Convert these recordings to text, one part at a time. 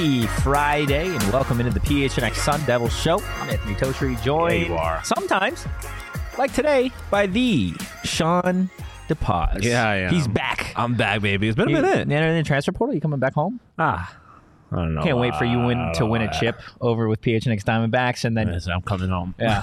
Happy Friday, and welcome into the PHNX Sun Devil Show. I'm Anthony Totri, joined sometimes, like today, by the Sean DePaz. Yeah, I am. He's back. I'm back, baby. It's been a minute. In the transfer portal, you coming back home? I don't know. Can't wait for you to win a chip over with PHNX Diamondbacks, and then I'm coming home. Yeah,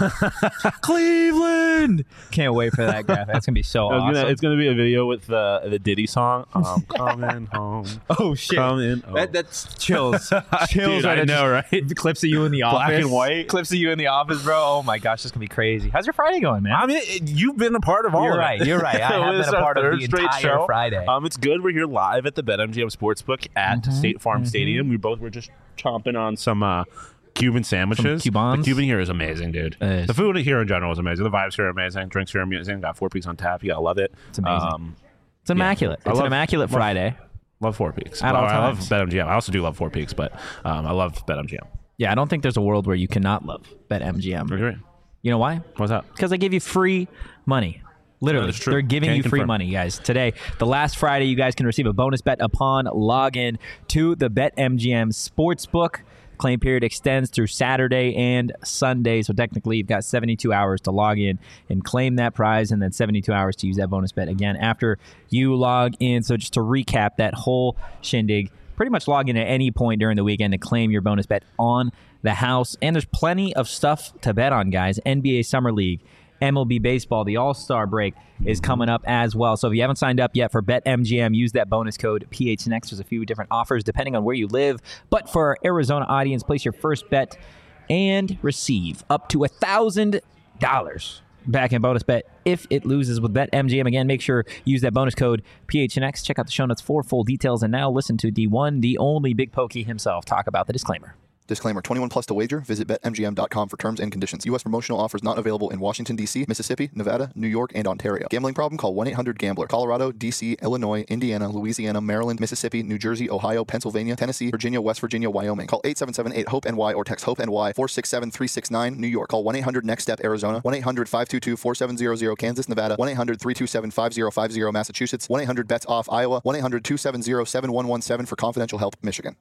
Cleveland. Can't wait for that graphic. That's gonna be so awesome. It's gonna be a video with the Diddy song. I'm coming home. Oh shit! Coming home. That's chills. Dude, I know, right? Clips of you in the office, black and white. Clips of you in the office, bro. Oh my gosh, this gonna be crazy. How's your Friday going, man? I mean, you've been a part of all You're of right. it. You're right. I have been a part of the entire show. Friday. It's good. We're here live at the BetMGM Sportsbook at State Farm Stadium. We both were just chomping on some Cuban sandwiches. Some Cubans. The Cuban here is amazing, dude. The food here in general is amazing. The vibes here are amazing. Drinks here are amazing. Got 4 Peaks on tap. You gotta love it. It's amazing. It's immaculate. It's an immaculate Friday. Love 4 Peaks. At all I love times. BetMGM. I also do love 4 Peaks, but I love BetMGM. Yeah, I don't think there's a world where you cannot love BetMGM. Agree. You know why? What's that? Because they give you free money. Literally, That's true. they're giving Can't you free confirm. money, guys. Today, the last Friday, you guys can receive a bonus bet upon login to the BetMGM Sportsbook. Claim period extends through Saturday and Sunday, so technically you've got 72 hours to log in and claim that prize, and then 72 hours to use that bonus bet again after you log in. So just to recap that whole shindig, pretty much log in at any point during the weekend to claim your bonus bet on the house. And there's plenty of stuff to bet on, guys. NBA Summer League, MLB Baseball, the All-Star break is coming up as well. So if you haven't signed up yet for BetMGM, use that bonus code PHNX. There's a few different offers depending on where you live. But for our Arizona audience, place your first bet and receive up to $1,000 back in bonus bet if it loses with BetMGM. Again, make sure you use that bonus code PHNX. Check out the show notes for full details. And now listen to the one, the only Big Pokey himself talk about the disclaimer. Disclaimer, 21 plus to wager. Visit BetMGM.com for terms and conditions. U.S. promotional offers not available in Washington, D.C., Mississippi, Nevada, New York, and Ontario. Gambling problem? Call 1-800-GAMBLER. Colorado, D.C., Illinois, Indiana, Louisiana, Maryland, Mississippi, New Jersey, Ohio, Pennsylvania, Tennessee, Virginia, West Virginia, Wyoming. Call 877-8-HOPE-NY or text HOPE-NY 467-369, New York. Call 1-800-NEXT-STEP, Arizona. 1-800-522-4700, Kansas, Nevada. 1-800-327-5050, Massachusetts. 1-800-BETS-OFF, Iowa. 1-800-270-7117 for confidential help, Michigan.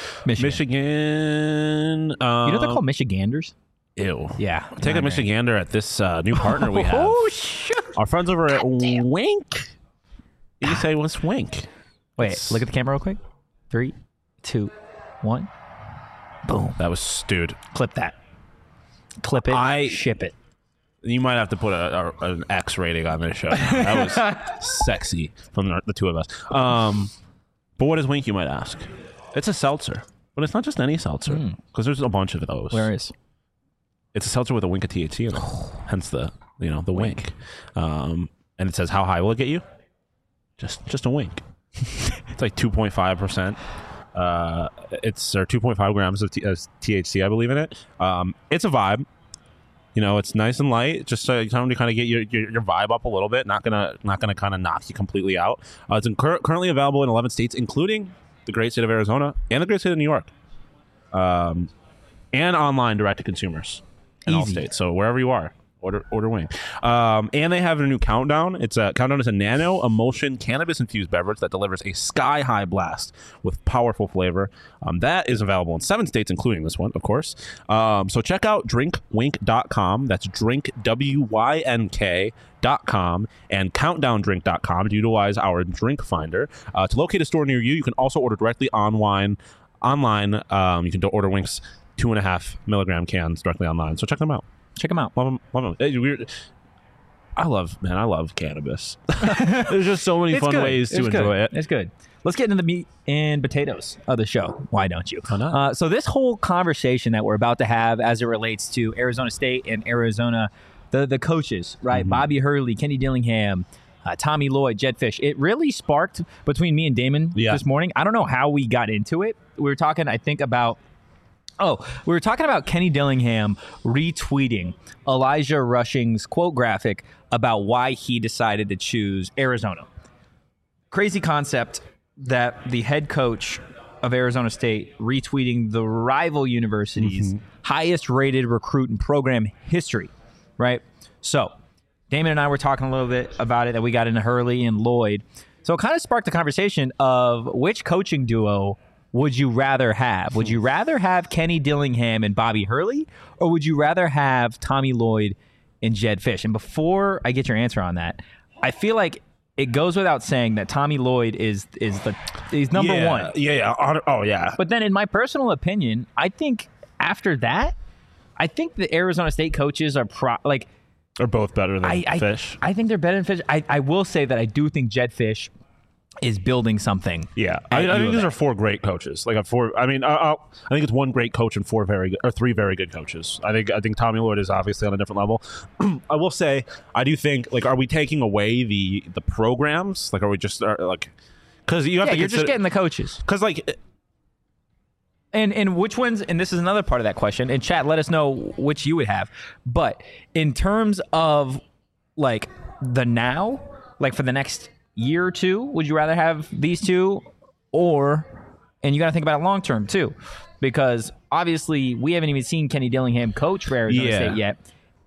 Michigan. You know they're called Michiganders? Ew. Yeah. Take a Michigander at this new partner we have. Oh, shit. Our friends over at Wink. You say what's Wink? Wait, look at the camera real quick. 3, 2, 1. Boom. That was, dude. Clip that. Clip it. Ship it. You might have to put an X rating on this show. That was sexy from the two of us. But what is Wink, you might ask? It's a seltzer. But it's not just any seltzer, because there's a bunch of those. Where is? It's a seltzer with a wink of THC in it. Hence the wink. And it says, how high will it get you? Just a wink. It's like 2.5%. It's 2.5 grams of THC, I believe, in it. It's a vibe. You know, it's nice and light, just time to kind of get your vibe up a little bit. Not gonna kind of knock you completely out. It's currently available in 11 states, including the great state of Arizona and the great state of New York, and online direct to consumers in all states. So wherever you are, order Wing. And they have a new Countdown. Countdown is a nano emulsion cannabis infused beverage that delivers a sky high blast with powerful flavor. That is available in 7 states, including this one, of course. So check out drinkwink.com. That's drinkwynk.com and countdowndrink.com to utilize our drink finder. To locate a store near you, you can also order directly online. You can order Wink's 2.5 milligram cans directly online. So check them out. Check them out. Love them. I love cannabis. There's just so many fun ways to enjoy it. It's good. Let's get into the meat and potatoes of the show. Why don't you? Why not? So this whole conversation that we're about to have as it relates to Arizona State and Arizona, the coaches, right? Mm-hmm. Bobby Hurley, Kenny Dillingham, Tommy Lloyd, Jedd Fisch. It really sparked between me and Damon this morning. I don't know how we got into it. We were talking, I think, about Kenny Dillingham retweeting Elijah Rushing's quote graphic about why he decided to choose Arizona. Crazy concept that the head coach of Arizona State retweeting the rival university's highest rated recruit in program history, right? So Damon and I were talking a little bit about it, that we got into Hurley and Lloyd. So it kind of sparked the conversation of which coaching duo would you rather have? Would you rather have Kenny Dillingham and Bobby Hurley, or would you rather have Tommy Lloyd and Jedd Fisch? And before I get your answer on that, I feel like it goes without saying that Tommy Lloyd he's number one. Yeah. But then, in my personal opinion, I think after that, I think the Arizona State coaches are Are both better than Fisch. I think they're better than Fisch. I will say that I do think Jedd Fisch is building something. Yeah, I think these are 4 great coaches. I think it's one great coach and 3 very good coaches. I think Tommy Lloyd is obviously on a different level. I will say, I do think, are we taking away the programs? Are we just because you have to? You're just getting the coaches. Because And which ones, and this is another part of that question, and chat, let us know which you would have. But in terms of the now, for the next year or two, would you rather have these two, and you got to think about it long term too, because obviously we haven't even seen Kenny Dillingham coach for Arizona State yet.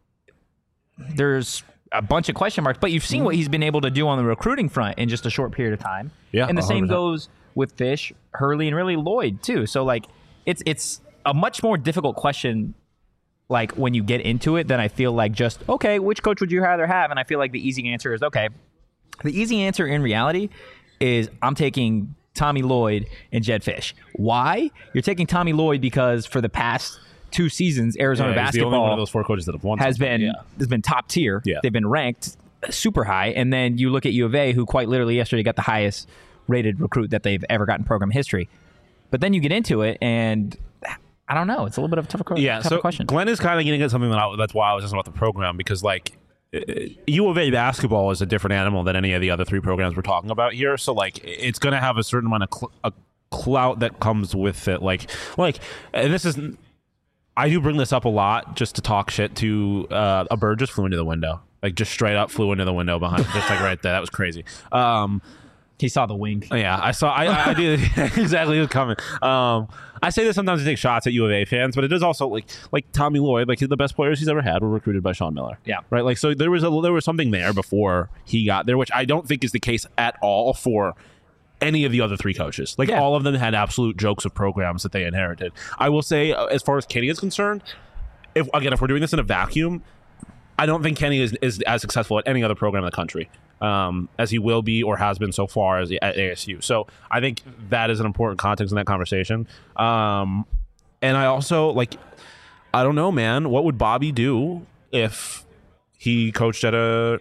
There's a bunch of question marks, but you've seen what he's been able to do on the recruiting front in just a short period of time. Yeah, and the 100%. same goes with Fisch, Hurley, and really Lloyd too. So it's a much more difficult question when you get into it than I feel just, okay, which coach would you rather have? And I feel like the easy answer is, okay, the easy answer in reality is I'm taking Tommy Lloyd and Jedd Fisch. Why? You're taking Tommy Lloyd because for the past 2 seasons, Arizona he's basketball, the only one of those 4 coaches that have won has been top tier. Yeah. They've been ranked super high. And then you look at U of A, who quite literally yesterday got the highest rated recruit that they've ever gotten in program history. But then you get into it, and I don't know. It's a little bit of a tougher question. Glenn is kind of getting at something that's why I was just about the program, because U of A basketball is a different animal than any of the other 3 programs we're talking about here. So it's going to have a certain amount of clout that comes with it. And this is, I do bring this up a lot just to talk shit to a bird just flew into the window, just straight up flew into the window behind, just right there. That was crazy. He saw the wink. Yeah, I saw. I did exactly. It was coming. I say this sometimes to take shots at U of A fans, but it is also like Tommy Lloyd. The best players he's ever had were recruited by Sean Miller. Yeah, right. So there was something there before he got there, which I don't think is the case at all for any of the other 3 coaches. All of them had absolute jokes of programs that they inherited. I will say, as far as Kenny is concerned, if we're doing this in a vacuum, I don't think Kenny is as successful at any other program in the country as he will be or has been so far at ASU. So I think that is an important context in that conversation. And I also I don't know, man. What would Bobby do if he coached at a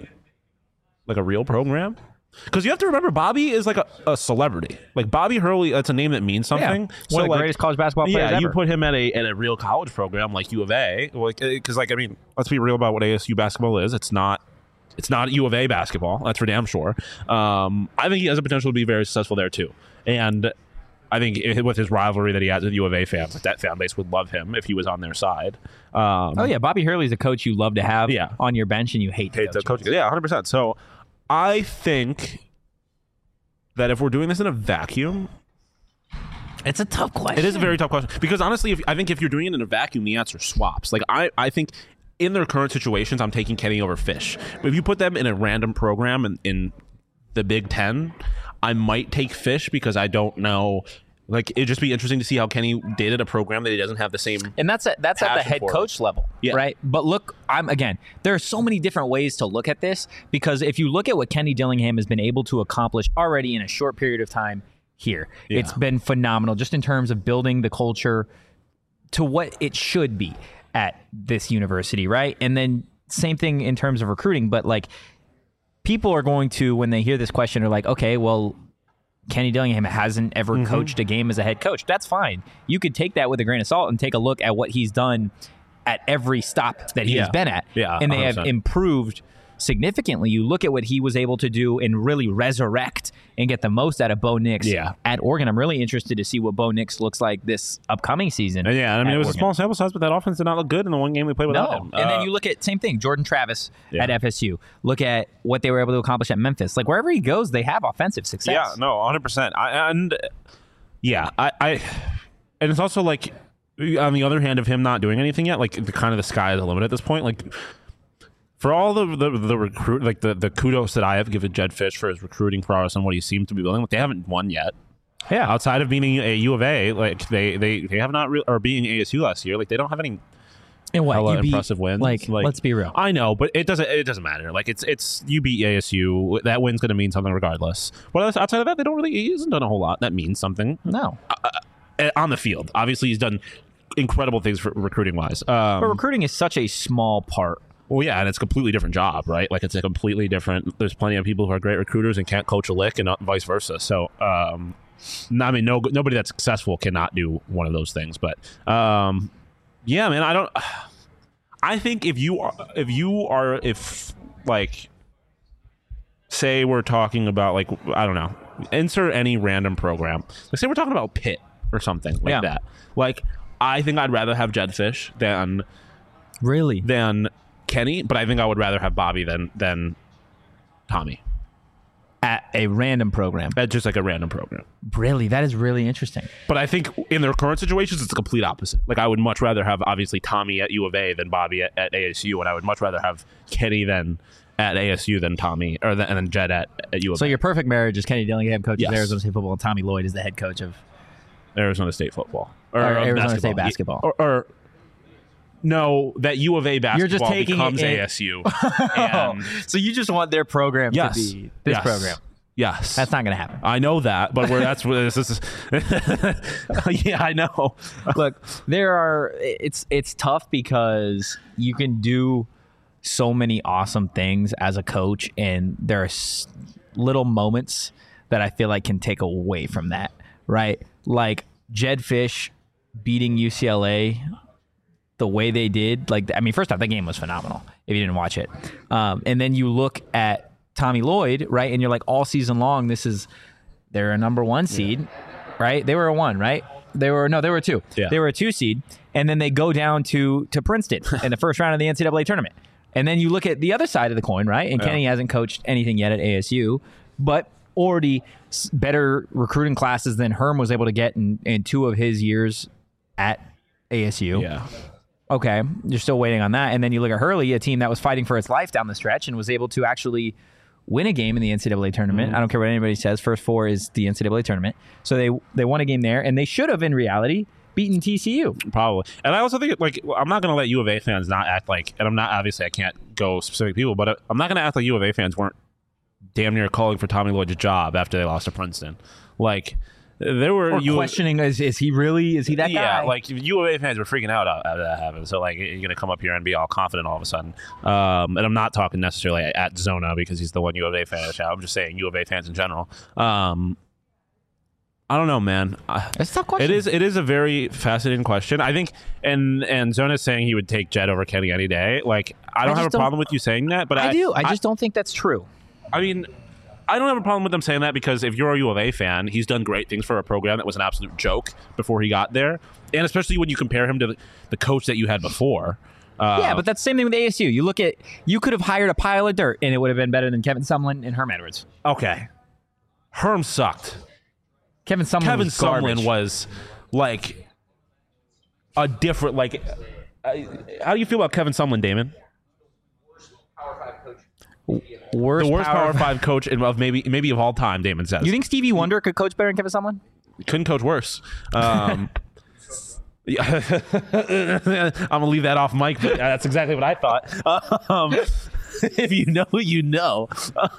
real program? Because you have to remember, Bobby is a celebrity. Bobby Hurley, that's a name that means something. Yeah. One of the greatest college basketball players ever. You put him at a real college program like U of A, because let's be real about what ASU basketball is. It's not U of A basketball. That's for damn sure. I think he has the potential to be very successful there too. And I think with his rivalry that he has with U of A fans, that fan base would love him if he was on their side. Bobby Hurley's a coach you love to have on your bench and you hate the coach. Yeah, 100%. So I think that if we're doing this in a vacuum, it's a tough question. It is a very tough question because honestly, I think if you're doing it in a vacuum, the answer swaps. I think in their current situations, I'm taking Kenny over Fisch. If you put them in a random program in the Big Ten, I might take Fisch because I don't know. It'd just be interesting to see how Kenny did at a program that he doesn't have the same. And that's at the head coach level, right? But look, there are so many different ways to look at this because if you look at what Kenny Dillingham has been able to accomplish already in a short period of time here, it's been phenomenal just in terms of building the culture to what it should be at this university, right? And then same thing in terms of recruiting, but people are going to, when they hear this question, are okay, well, Kenny Dillingham hasn't ever coached a game as a head coach. That's fine. You could take that with a grain of salt and take a look at what he's done at every stop that he has been at. Yeah, and they have improved significantly. You look at what he was able to do and really resurrect and get the most out of Bo Nix at Oregon. I'm really interested to see what Bo Nix looks like this upcoming season. It was a small sample size, but that offense did not look good in the one game we played without him. And then you look at same thing, Jordan Travis at FSU. Look at what they were able to accomplish at Memphis. Wherever he goes, they have offensive success. Yeah, no, 100%. And it's also on the other hand of him not doing anything yet, the sky is the limit at this point. For all the recruit, the kudos that I have given Jedd Fisch for his recruiting prowess and what he seems to be building, they haven't won yet. Yeah. Outside of being a U of A, like they have not or being ASU last year, like they don't have any And what hella you beat, impressive wins. Like, let's be real. I know, but it doesn't matter. Like it's you beat ASU, that win's going to mean something regardless. But outside of that, he hasn't done a whole lot that means something. No. On the field, obviously he's done incredible things for recruiting wise. But recruiting is such a small part. Well, yeah, and it's a completely different job, right? Like it's a completely different. There's plenty of people who are great recruiters and can't coach a lick, and vice versa. So, nobody that's successful cannot do one of those things. But, yeah, man, I think if say we're talking about like I don't know, insert any random program. Like say we're talking about Pitt or something like that. Like I think I'd rather have Jedd Fisch than Kenny, but I think I would rather have Bobby than Tommy. At a random program. At just like a random program. Really? That is really interesting. But I think in their current situations, it's the complete opposite. Like I would much rather have obviously Tommy at U of A than Bobby at ASU, and I would much rather have Kenny than at ASU than Tommy, and then Jedd at U of A. So your perfect marriage is Kenny Dillingham, coach Yes. of Arizona State football, and Tommy Lloyd is the head coach of Arizona State football. Or Arizona State basketball. Or no, that U of A basketball You're just taking becomes it ASU. And so you just want their program yes, to be this program. Yes. That's not going to happen. I know that, but that's what this is. Yeah, I know. Look, it's tough because you can do so many awesome things as a coach, and there are little moments that I feel like can take away from that, right? Like Jedd Fisch beating UCLA the way they did. Like, I mean, first off, that game was phenomenal if you didn't watch it. And then you look at Tommy Lloyd, right? And you're like, all season long, they're a number 1 seed, right? They were a 1, right? They were a 2. Yeah. They were a 2 seed. And then they go down to Princeton in the first round of the NCAA tournament. And then you look at the other side of the coin, right? And Kenny hasn't coached anything yet at ASU, but already better recruiting classes than Herm was able to get in 2 of his years at ASU. Yeah. Okay, you're still waiting on that. And then you look at Hurley, a team that was fighting for its life down the stretch and was able to actually win a game in the NCAA tournament. I don't care what anybody says. First 4 is the NCAA tournament. So they won a game there, and they should have, in reality, beaten TCU. Probably. And I also think, like, I'm not going to let U of A fans not act like, and I'm not, obviously I can't go specific people, but I'm not going to act like U of A fans weren't damn near calling for Tommy Lloyd's job after they lost to Princeton. Like, there were questioning, is he that guy? Yeah, like U of A fans were freaking out after that happened. So like, you're gonna come up here and be all confident all of a sudden. And I'm not talking necessarily at Zona because he's the one U of A fan. I'm just saying U of A fans in general. I don't know, man. It's a tough question. It is a very fascinating question. I think, and Zona's saying he would take Jedd over Kenny any day. Like, I don't have a problem with you saying that, but I do. I just don't think that's true. I mean, I don't have a problem with them saying that because if you're a U of A fan, he's done great things for a program that was an absolute joke before he got there. And especially when you compare him to the coach that you had before. Yeah, but that's the same thing with ASU. You could have hired a pile of dirt and it would have been better than Kevin Sumlin and Herm Edwards. Okay. Herm sucked. Kevin Sumlin was like a different, like, how do you feel about Kevin Sumlin, Damon? The worst Power 5 coach of maybe of all time, Damon says. You think Stevie Wonder could coach better than Kevin Sumlin? Couldn't coach worse. I'm gonna leave that off mic, but that's exactly what I thought. If you know, you know.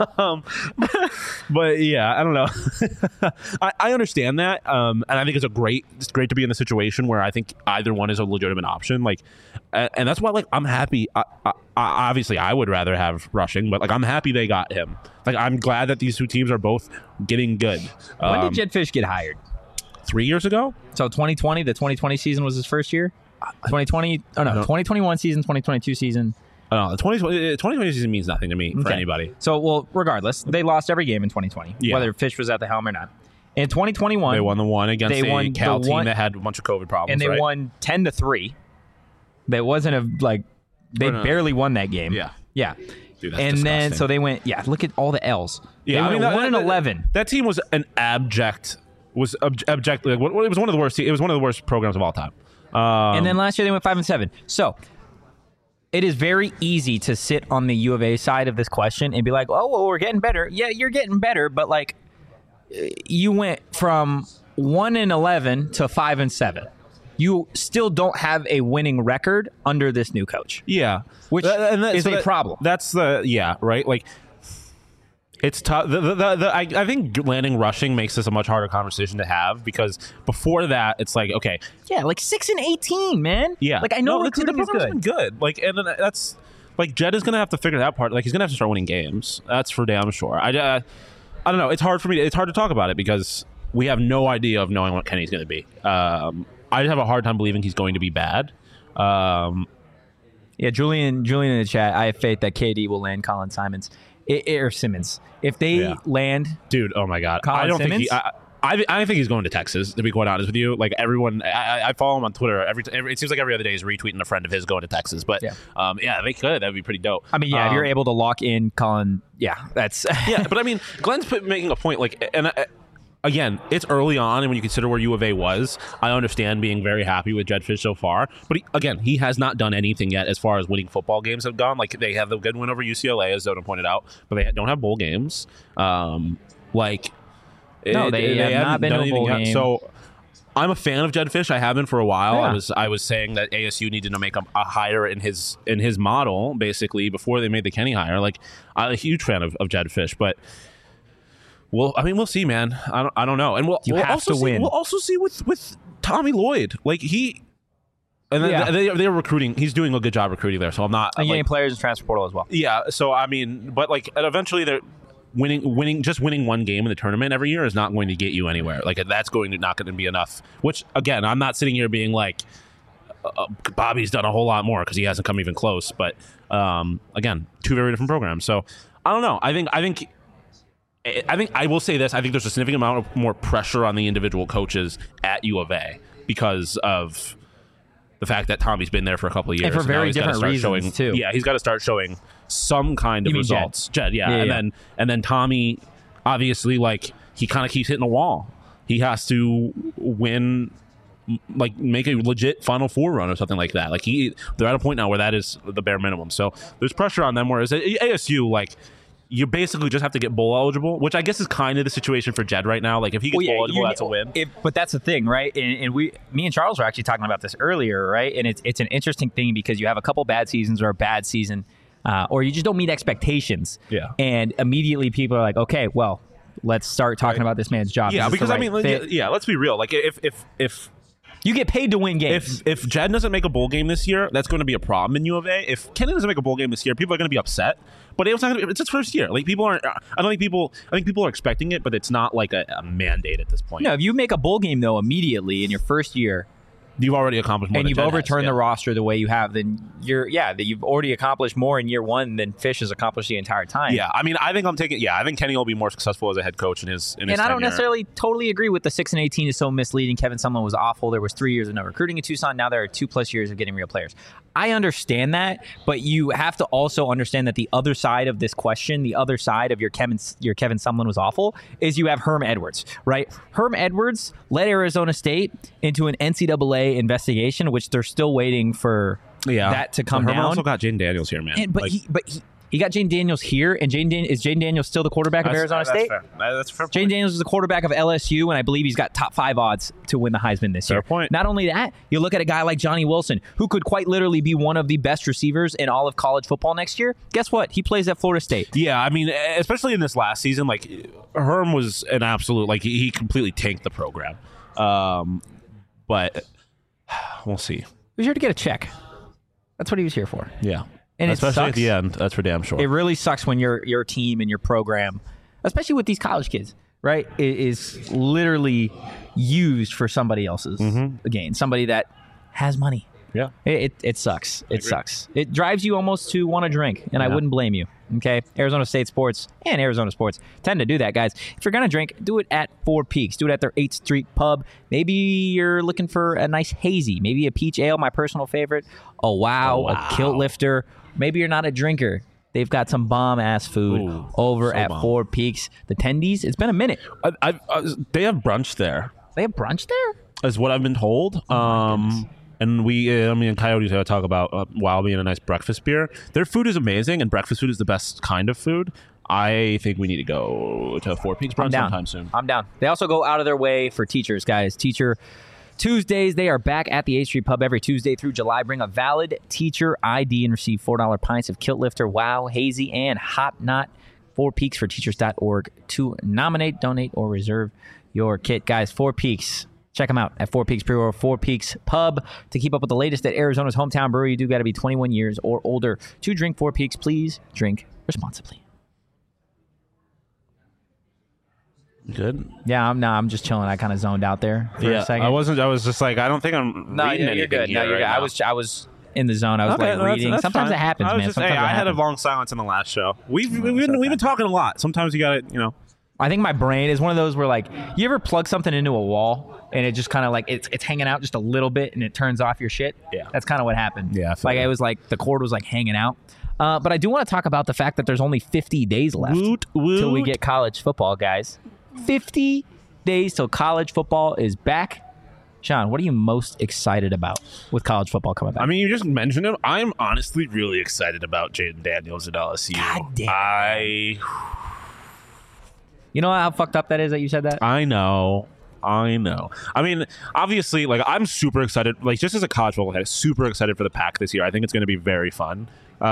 But yeah, I don't know. I understand that, and I think it's great to be in the situation where I think either one is a legitimate option. Like, and that's why, like, I'm happy. Obviously, I would rather have Rushing, but like, I'm happy they got him. Like, I'm glad that these 2 teams are both getting good. When did Jedd Fisch get hired? 3 years ago. So 2020, the 2020 season was his first year. 2021 season, 2022 season. The 2020 season means nothing to me for anybody. So, well, regardless, they lost every game in 2020, whether Fisch was at the helm or not. In 2021, they won the one against a Cal team that had a bunch of COVID problems, and they won 10-3. That wasn't they barely won that game. Yeah. Dude, that's and disgusting. Then so they went. Yeah, look at all the L's. Yeah, they went 1-11. That team was an abject. Was abjectly. It was one of the worst. It was one of the worst programs of all time. And then last year they went 5-7. So it is very easy to sit on the U of A side of this question and be like, "Oh, well, we're getting better." Yeah, you're getting better, but like, you went from 1-11 to 5-7. You still don't have a winning record under this new coach. Yeah, which is a problem. That's right. Like, it's tough. I think landing rushing makes this a much harder conversation to have, because before that, it's like, okay, yeah, like 6-18, man. Yeah, like I know recruiting is been good. Like, and then that's like Jed is gonna have to figure that part. Like, he's gonna have to start winning games. That's for damn sure. I don't know. It's hard for me. It's hard to talk about it because we have no idea of knowing what Kenny's gonna be. I have a hard time believing he's going to be bad. Yeah, Julian in the chat. I have faith that KD will land Colin Simmons. Or Simmons. If they land, dude, oh my god, Colin I don't Simmons? think I think he's going to Texas. To be quite honest with you, like everyone, I follow him on Twitter. It seems like every other day he's retweeting a friend of his going to Texas. But they could. That'd be pretty dope. I mean, if you're able to lock in Colin, that's But I mean, Glenn's making a point. Like, and again, it's early on, and when you consider where U of A was, I understand being very happy with Jedd Fisch so far. But he has not done anything yet as far as winning football games have gone. Like, they have the good win over UCLA, as Zona pointed out, but they don't have bowl games. They have not been to a bowl game. So I'm a fan of Jedd Fisch. I have been for a while. Yeah. I was saying that ASU needed to make a hire in his model, basically, before they made the Kenny hire. Like, I'm a huge fan of Jedd Fisch, but. Well, I mean, we'll see, man. I don't know, and we'll also see. We'll also see with Tommy Lloyd. Like, they're recruiting. He's doing a good job recruiting there. So I'm not getting players in transfer portal as well. Yeah. So I mean, but like, eventually they're winning one game in the tournament every year is not going to get you anywhere. Like, that's not going to be enough. Which, again, I'm not sitting here being like Bobby's done a whole lot more because he hasn't come even close. But again, two very different programs. So I don't know. I think I will say this. I think there's a significant amount of more pressure on the individual coaches at U of A because of the fact that Tommy's been there for a couple of years. And for very different reasons, too. Yeah, he's got to start showing some kind of results. Jed, and then Tommy, obviously, like, he kind of keeps hitting the wall. He has to win, like, make a legit Final Four run or something like that. Like, they're at a point now where that is the bare minimum. So there's pressure on them, whereas at ASU, like, you basically just have to get bowl eligible, which I guess is kind of the situation for Jed right now. Like, if he gets bowl eligible, that's a win. But that's the thing, right? And me and Charles were actually talking about this earlier, right? And it's an interesting thing because you have a couple bad seasons or a bad season, or you just don't meet expectations. Yeah. And immediately people are like, okay, well, let's start talking about this man's job. Yeah, because let's be real. Like, if you get paid to win games. If Jed doesn't make a bowl game this year, that's going to be a problem in U of A. If Kenny doesn't make a bowl game this year, people are going to be upset. But it's his first year. Like, people aren't. I think people are expecting it, but it's not like a mandate at this point. No, if you make a bowl game though immediately in your first year, you've already accomplished more. And you've overturned the roster the way you have, then you've already accomplished more in year one than Fisch has accomplished the entire time. Yeah, I mean, I think Kenny will be more successful as a head coach in his And I don't necessarily totally agree with the 6-18 is so misleading. Kevin Sumlin was awful. There was 3 years of no recruiting in Tucson. Now there are 2+ years of getting real players. I understand that, but you have to also understand that the other side of this question, the other side of your Kevin Sumlin was awful, is you have Herm Edwards, right? Herm Edwards led Arizona State into an NCAA investigation, which they're still waiting for that to come down. Herm also got Jane Daniels here, man. He got Jane Daniels here, and is Jane Daniels still the quarterback of Arizona State? That's fair. Jane Daniels is the quarterback of LSU, and I believe he's got top 5 odds to win the Heisman this year. Fair point. Not only that, you look at a guy like Johnny Wilson, who could quite literally be one of the best receivers in all of college football next year. Guess what? He plays at Florida State. Yeah, I mean, especially in this last season, like, Herm was an absolute, like, he completely tanked the program. But we'll see. He was here to get a check. That's what he was here for. Yeah. And especially at the end, that's for damn sure. It really sucks when your team and your program, especially with these college kids, right, is literally used for somebody else's gain, somebody that has money. Yeah. It sucks. It sucks. It drives you almost to want to drink, and I wouldn't blame you. Okay? Arizona State sports and Arizona sports tend to do that, guys. If you're going to drink, do it at Four Peaks. Do it at their 8th Street pub. Maybe you're looking for a nice hazy, maybe a peach ale, my personal favorite, a kilt lifter. Maybe you're not a drinker. They've got some bomb-ass food over at Four Peaks. The Tendies, it's been a minute. They have brunch there. They have brunch there? Is what I've been told. And me and Coyotes talk about while being a nice breakfast beer. Their food is amazing, and breakfast food is the best kind of food. I think we need to go to Four Peaks brunch sometime soon. I'm down. They also go out of their way for teachers, guys. Teacher Tuesdays, they are back at the 8th Street Pub every Tuesday through July. Bring a valid teacher ID and receive $4 pints of Kilt Lifter, Wow, Hazy, and Hop Knot. 4peaksforteachers.org to nominate, donate, or reserve your kit. Guys, Four Peaks. Check them out at Four Peaks Brew or Four Peaks Pub. To keep up with the latest at Arizona's hometown brewery, you do got to be 21 years or older to drink Four Peaks. Please drink responsibly. Good. Yeah, I'm just chilling. I kind of zoned out there for a second. I was just like, I don't think I'm reading anything. You're good. Here No, you're right good. now. I was in the zone. I was reading. That's Sometimes fine. it happens, I was man. Just Sometimes saying, it I had a happens. long silence in the last show. We've it's been talking a lot. Sometimes you got to, I think my brain is one of those where, like, you ever plug something into a wall and it just kind of like it's hanging out just a little bit and it turns off your shit? Yeah. That's kind of what happened. Yeah, I feel like that. it was like the cord was like hanging out. But I do want to talk about the fact that there's only 50 days left till we get college football, guys. 50 days till college football is back. Sean, what are you most excited about with college football coming back? I mean, you just mentioned him. I'm honestly really excited about Jaden Daniels at LSU. God damn. You know how fucked up that is that you said that? I know. I mean, obviously, like, I'm super excited. Like, just as a college football head, super excited for the Pac this year. I think it's going to be very fun.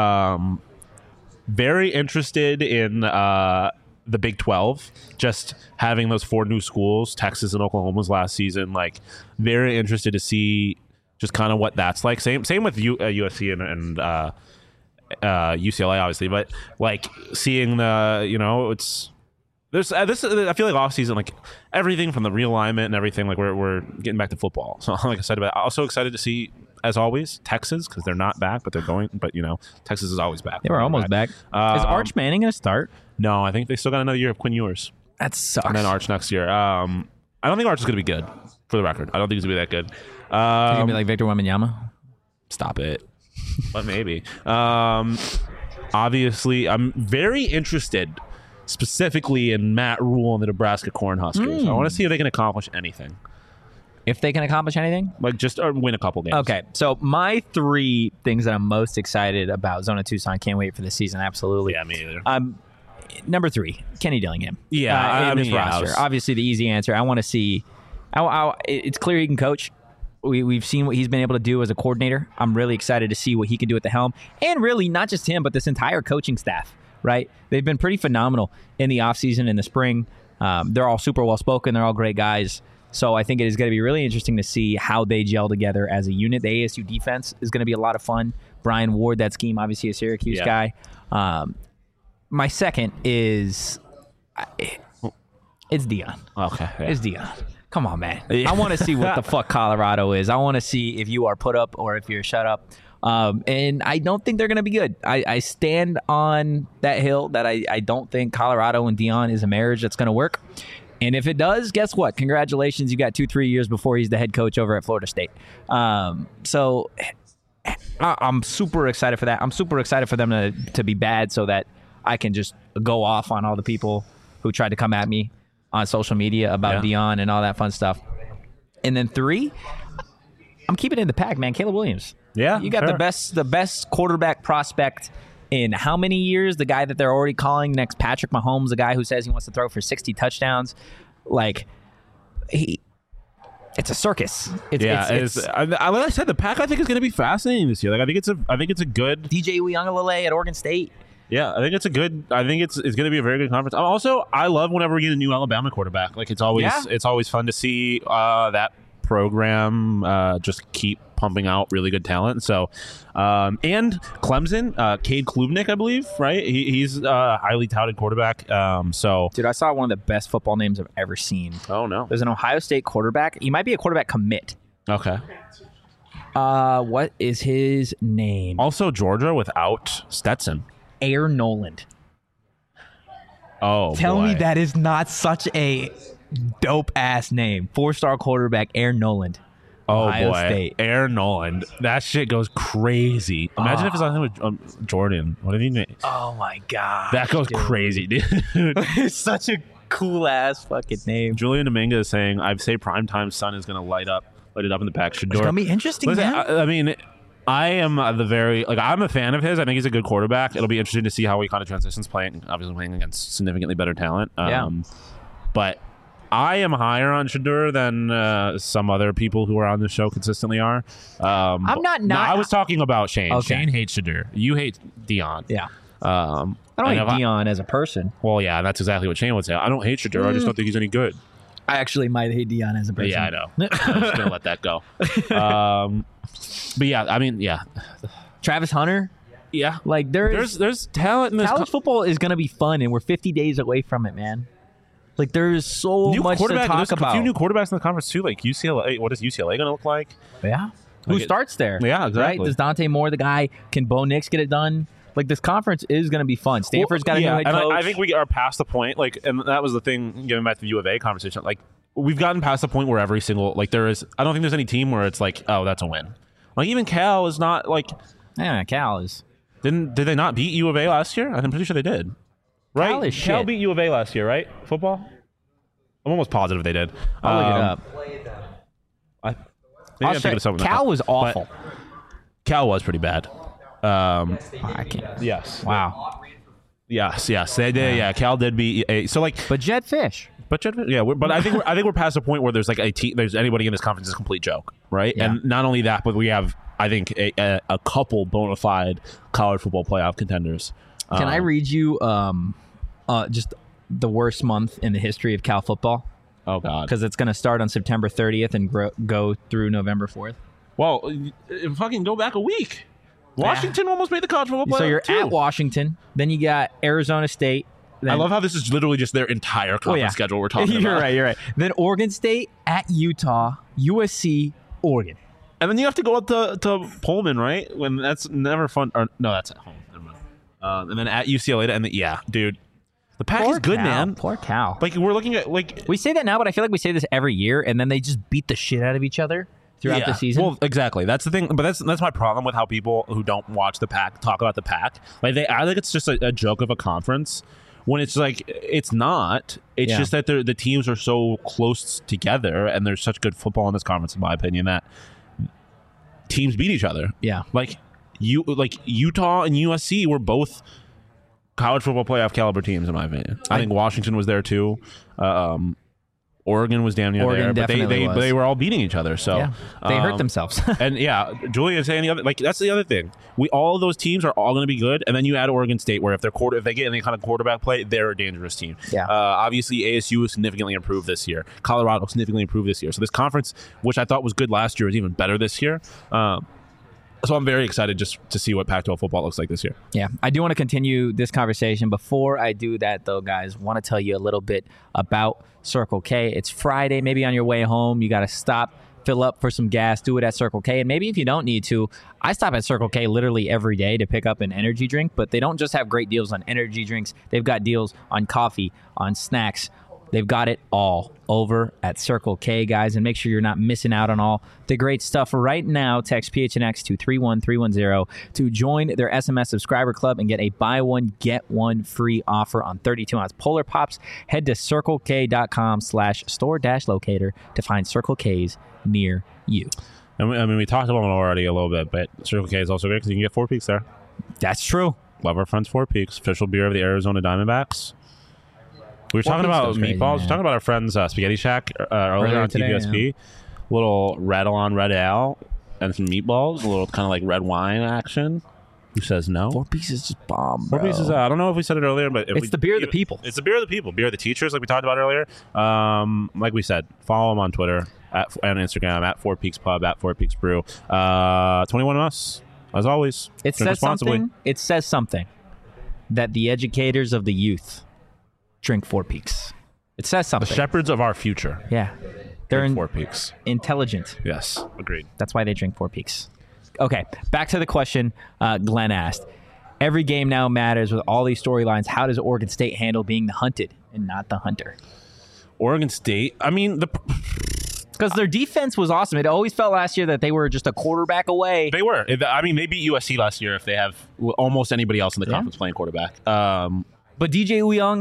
Very interested in the Big 12, just having those 4 new schools, Texas and Oklahoma was last season. Like, very interested to see just kind of what that's like. Same with USC and UCLA, obviously, but like seeing the it's. There's this. I feel like off season, like everything from the realignment and everything, like we're getting back to football. So I'm excited about it. Also excited to see, as always, Texas, because they're not back, but they're going. But Texas is always back. They were almost back. Is Arch Manning going to start? No, I think they still got another year of Quinn Ewers. That sucks. And then Arch next year. I don't think Arch is going to be good. For the record, I don't think he's going to be that good. He's going to be like Victor Wembanyama. Stop it. But maybe. Obviously, I'm very interested specifically in Matt Rule and the Nebraska Cornhuskers. I want to see if they can accomplish anything. If they can accomplish anything? Like, just win a couple games. Okay, so my 3 things that I'm most excited about, Zona Tucson, can't wait for the season, absolutely. Yeah, me either. Number 3, Kenny Dillingham. Yeah, in this roster. Obviously, the easy answer. I want to see. It's clear he can coach. We've seen what he's been able to do as a coordinator. I'm really excited to see what he can do at the helm, and really not just him, but this entire coaching staff. Right, they've been pretty phenomenal in the offseason, in the spring. They're all super well spoken. They're all great guys. So I think it is going to be really interesting to see how they gel together as a unit. The ASU defense is going to be a lot of fun. Brian Ward, that scheme, obviously a Syracuse guy. My second is it's Dion. Okay, yeah. It's Dion. Come on, man. Yeah. I want to see what the fuck Colorado is. I want to see if you are put up or if you're shut up. And I don't think they're going to be good. I stand on that hill that I don't think Colorado and Dion is a marriage that's going to work. And if it does, guess what? Congratulations. You got 2-3 years before he's the head coach over at Florida State. So I'm super excited for that. I'm super excited for them to be bad so that I can just go off on all the people who tried to come at me on social media about Dion and all that fun stuff. And then 3, I'm keeping it in the pack, man. Caleb Williams. Yeah, you got the best quarterback prospect in how many years? The guy that they're already calling next Patrick Mahomes, the guy who says he wants to throw for 60 touchdowns. Like, it's a circus. Like I said, the pack I think is going to be fascinating this year. Like I think it's a good DJ Uiagalelei at Oregon State. Yeah, I think it's going to be a very good conference. I love whenever we get a new Alabama quarterback. Like it's always fun to see that program just keep pumping out really good talent. So, and Clemson, Cade Klubnik, I believe, right? He's a highly touted quarterback. Dude, I saw one of the best football names I've ever seen. Oh no, there's an Ohio State quarterback. He might be a quarterback commit. Okay. What is his name? Also, Georgia without Stetson. Air Noland. Oh, tell boy. me that is not such a dope ass name. 4-star quarterback Air Noland. Ohio State. Air Noland. That shit goes crazy. Imagine if it's on him with Jordan. What do you mean? Oh my god, that goes crazy, dude. It's such a cool ass fucking name. Julian Dominguez is saying, "I'd say primetime sun is going to light it up in the pack." It's gonna be interesting. Listen, man. I mean, I am I'm a fan of his. I think he's a good quarterback. It'll be interesting to see how he kind of transitions playing against significantly better talent. But I am higher on Shedeur than some other people who are on the show consistently are. I'm not. No, I was talking about Shane. Okay. Shane hates Shedeur. You hate Dion. Yeah. I I don't hate Dion as a person. Well, yeah, that's exactly what Shane would say. I don't hate Shedeur. I just don't think he's any good. I actually might hate Dion as a person. Yeah, I know. I'm just gonna let that go. But yeah, I mean, yeah, Travis Hunter. yeah. Like There's talent in this. college football is going to be fun, and we're 50 days away from it, man. Like there's so much to talk There's about. a few new quarterbacks in the conference too. Like UCLA. What is UCLA going to look like? Yeah. Who starts there? Yeah, exactly. Right? Does Dante Moore the guy? Can Bo Nix get it done? Like this conference is going to be fun. Stanford's got a new head coach. I think we are past the point. Like, and that was the thing. Getting back to the U of A conversation, like we've gotten past the point where every single there is. I don't think there's any team where it's like, oh, that's a win. Like even Cal is not like. Yeah, Cal is. Did they not beat U of A last year? I'm pretty sure they did. Right? Cal is Cal shit. beat U of A last year, right? Football. I'm almost positive they did. I'll look it up. Maybe I'm thinking of something. Cal was awful. Cal was pretty bad. I can't. Yes. Wow. Yes. They did. Yeah. Cal did beat A. So like, But Jed Fish. but I think we're past the point where there's like there's anybody in this conference is a complete joke, right? Yeah. And not only that, but we have I think a couple bona fide college football playoff contenders. Can I read you just the worst month in the history of Cal football? Oh God. Because it's going to start on September 30th and go through November 4th. Well, fucking go back a week. Washington almost made the college football playoff. So you're too. at Washington. Then you got Arizona State. Then, I love how this is literally just their entire conference schedule we're talking You're about. right. Then Oregon State, at Utah, USC, Oregon. And then you have to go up to Pullman, right? When that's never fun. Or, no, that's at home. Never mind. And then at UCLA, and yeah, dude, the pack is good, Cal. man. Poor Cal. Like we're looking at like We say that now, but I feel like we say this every year, and then they just beat the shit out of each other throughout the season. Well, exactly. That's the thing. But that's my problem with how people who don't watch the pack talk about the pack. Like I think it's just a joke of a conference. When it's like it's not. It's just that the teams are so close together, and there's such good football in this conference, in my opinion, that teams beat each other. Yeah. Like Utah and USC were both college football playoff caliber teams, in my opinion. I think Washington was there too. Oregon was damn near there, but they were all beating each other. So they hurt themselves. And Julian saying the other, like that's the other thing. All of those teams are all going to be good, and then you add Oregon State, where if they get any kind of quarterback play, they're a dangerous team. Yeah. Obviously, ASU was significantly improved this year. Colorado significantly improved this year. So this conference, which I thought was good last year, is even better this year. So I'm very excited just to see what Pac-12 football looks like this year. Yeah, I do want to continue this conversation. Before I do that, though, guys, want to tell you a little bit about Circle K. It's Friday. Maybe on your way home, you got to stop, fill up for some gas, do it at Circle K. And maybe if you don't need to, I stop at Circle K literally every day to pick up an energy drink. But they don't just have great deals on energy drinks. They've got deals on coffee, on snacks. They've got it all over at Circle K, guys, and make sure you're not missing out on all the great stuff. Right now, text PHNX to 31310 to join their SMS subscriber club and get a buy one, get one free offer on 32-ounce Polar Pops. Head to circlek.com/store-locator to find Circle K's near you. And we talked about it already a little bit, but Circle K is also great because you can get 4 Peaks there. That's true. Love our friends 4 Peaks, official beer of the Arizona Diamondbacks. We were talking about meatballs. We were talking about our friends Spaghetti Shack earlier on today, TBSP. Little red on red ale and some meatballs. A little kind of like red wine action. Who says no? 4 Peaks is just bomb, 4 Peaks is, I don't know if we said it earlier, but it's the beer of the people. It's the beer of the people. Beer of the teachers, like we talked about earlier. Like we said, follow them on Twitter and Instagram at 4 Peaks Pub, at 4 Peaks Brew. 21 on us, as always. It says something. It says something that the educators of the youth drink 4 Peaks. It says something. The shepherds of our future. Yeah. They're 4 Peaks. Intelligent. Yes, agreed. That's why they drink 4 Peaks. Okay, back to the question Glenn asked. Every game now matters with all these storylines. How does Oregon State handle being the hunted and not the hunter? Oregon State, I mean, because their defense was awesome. It always felt last year that they were just a quarterback away. They were. I mean, they beat USC last year if they have almost anybody else in the conference playing quarterback. But DJ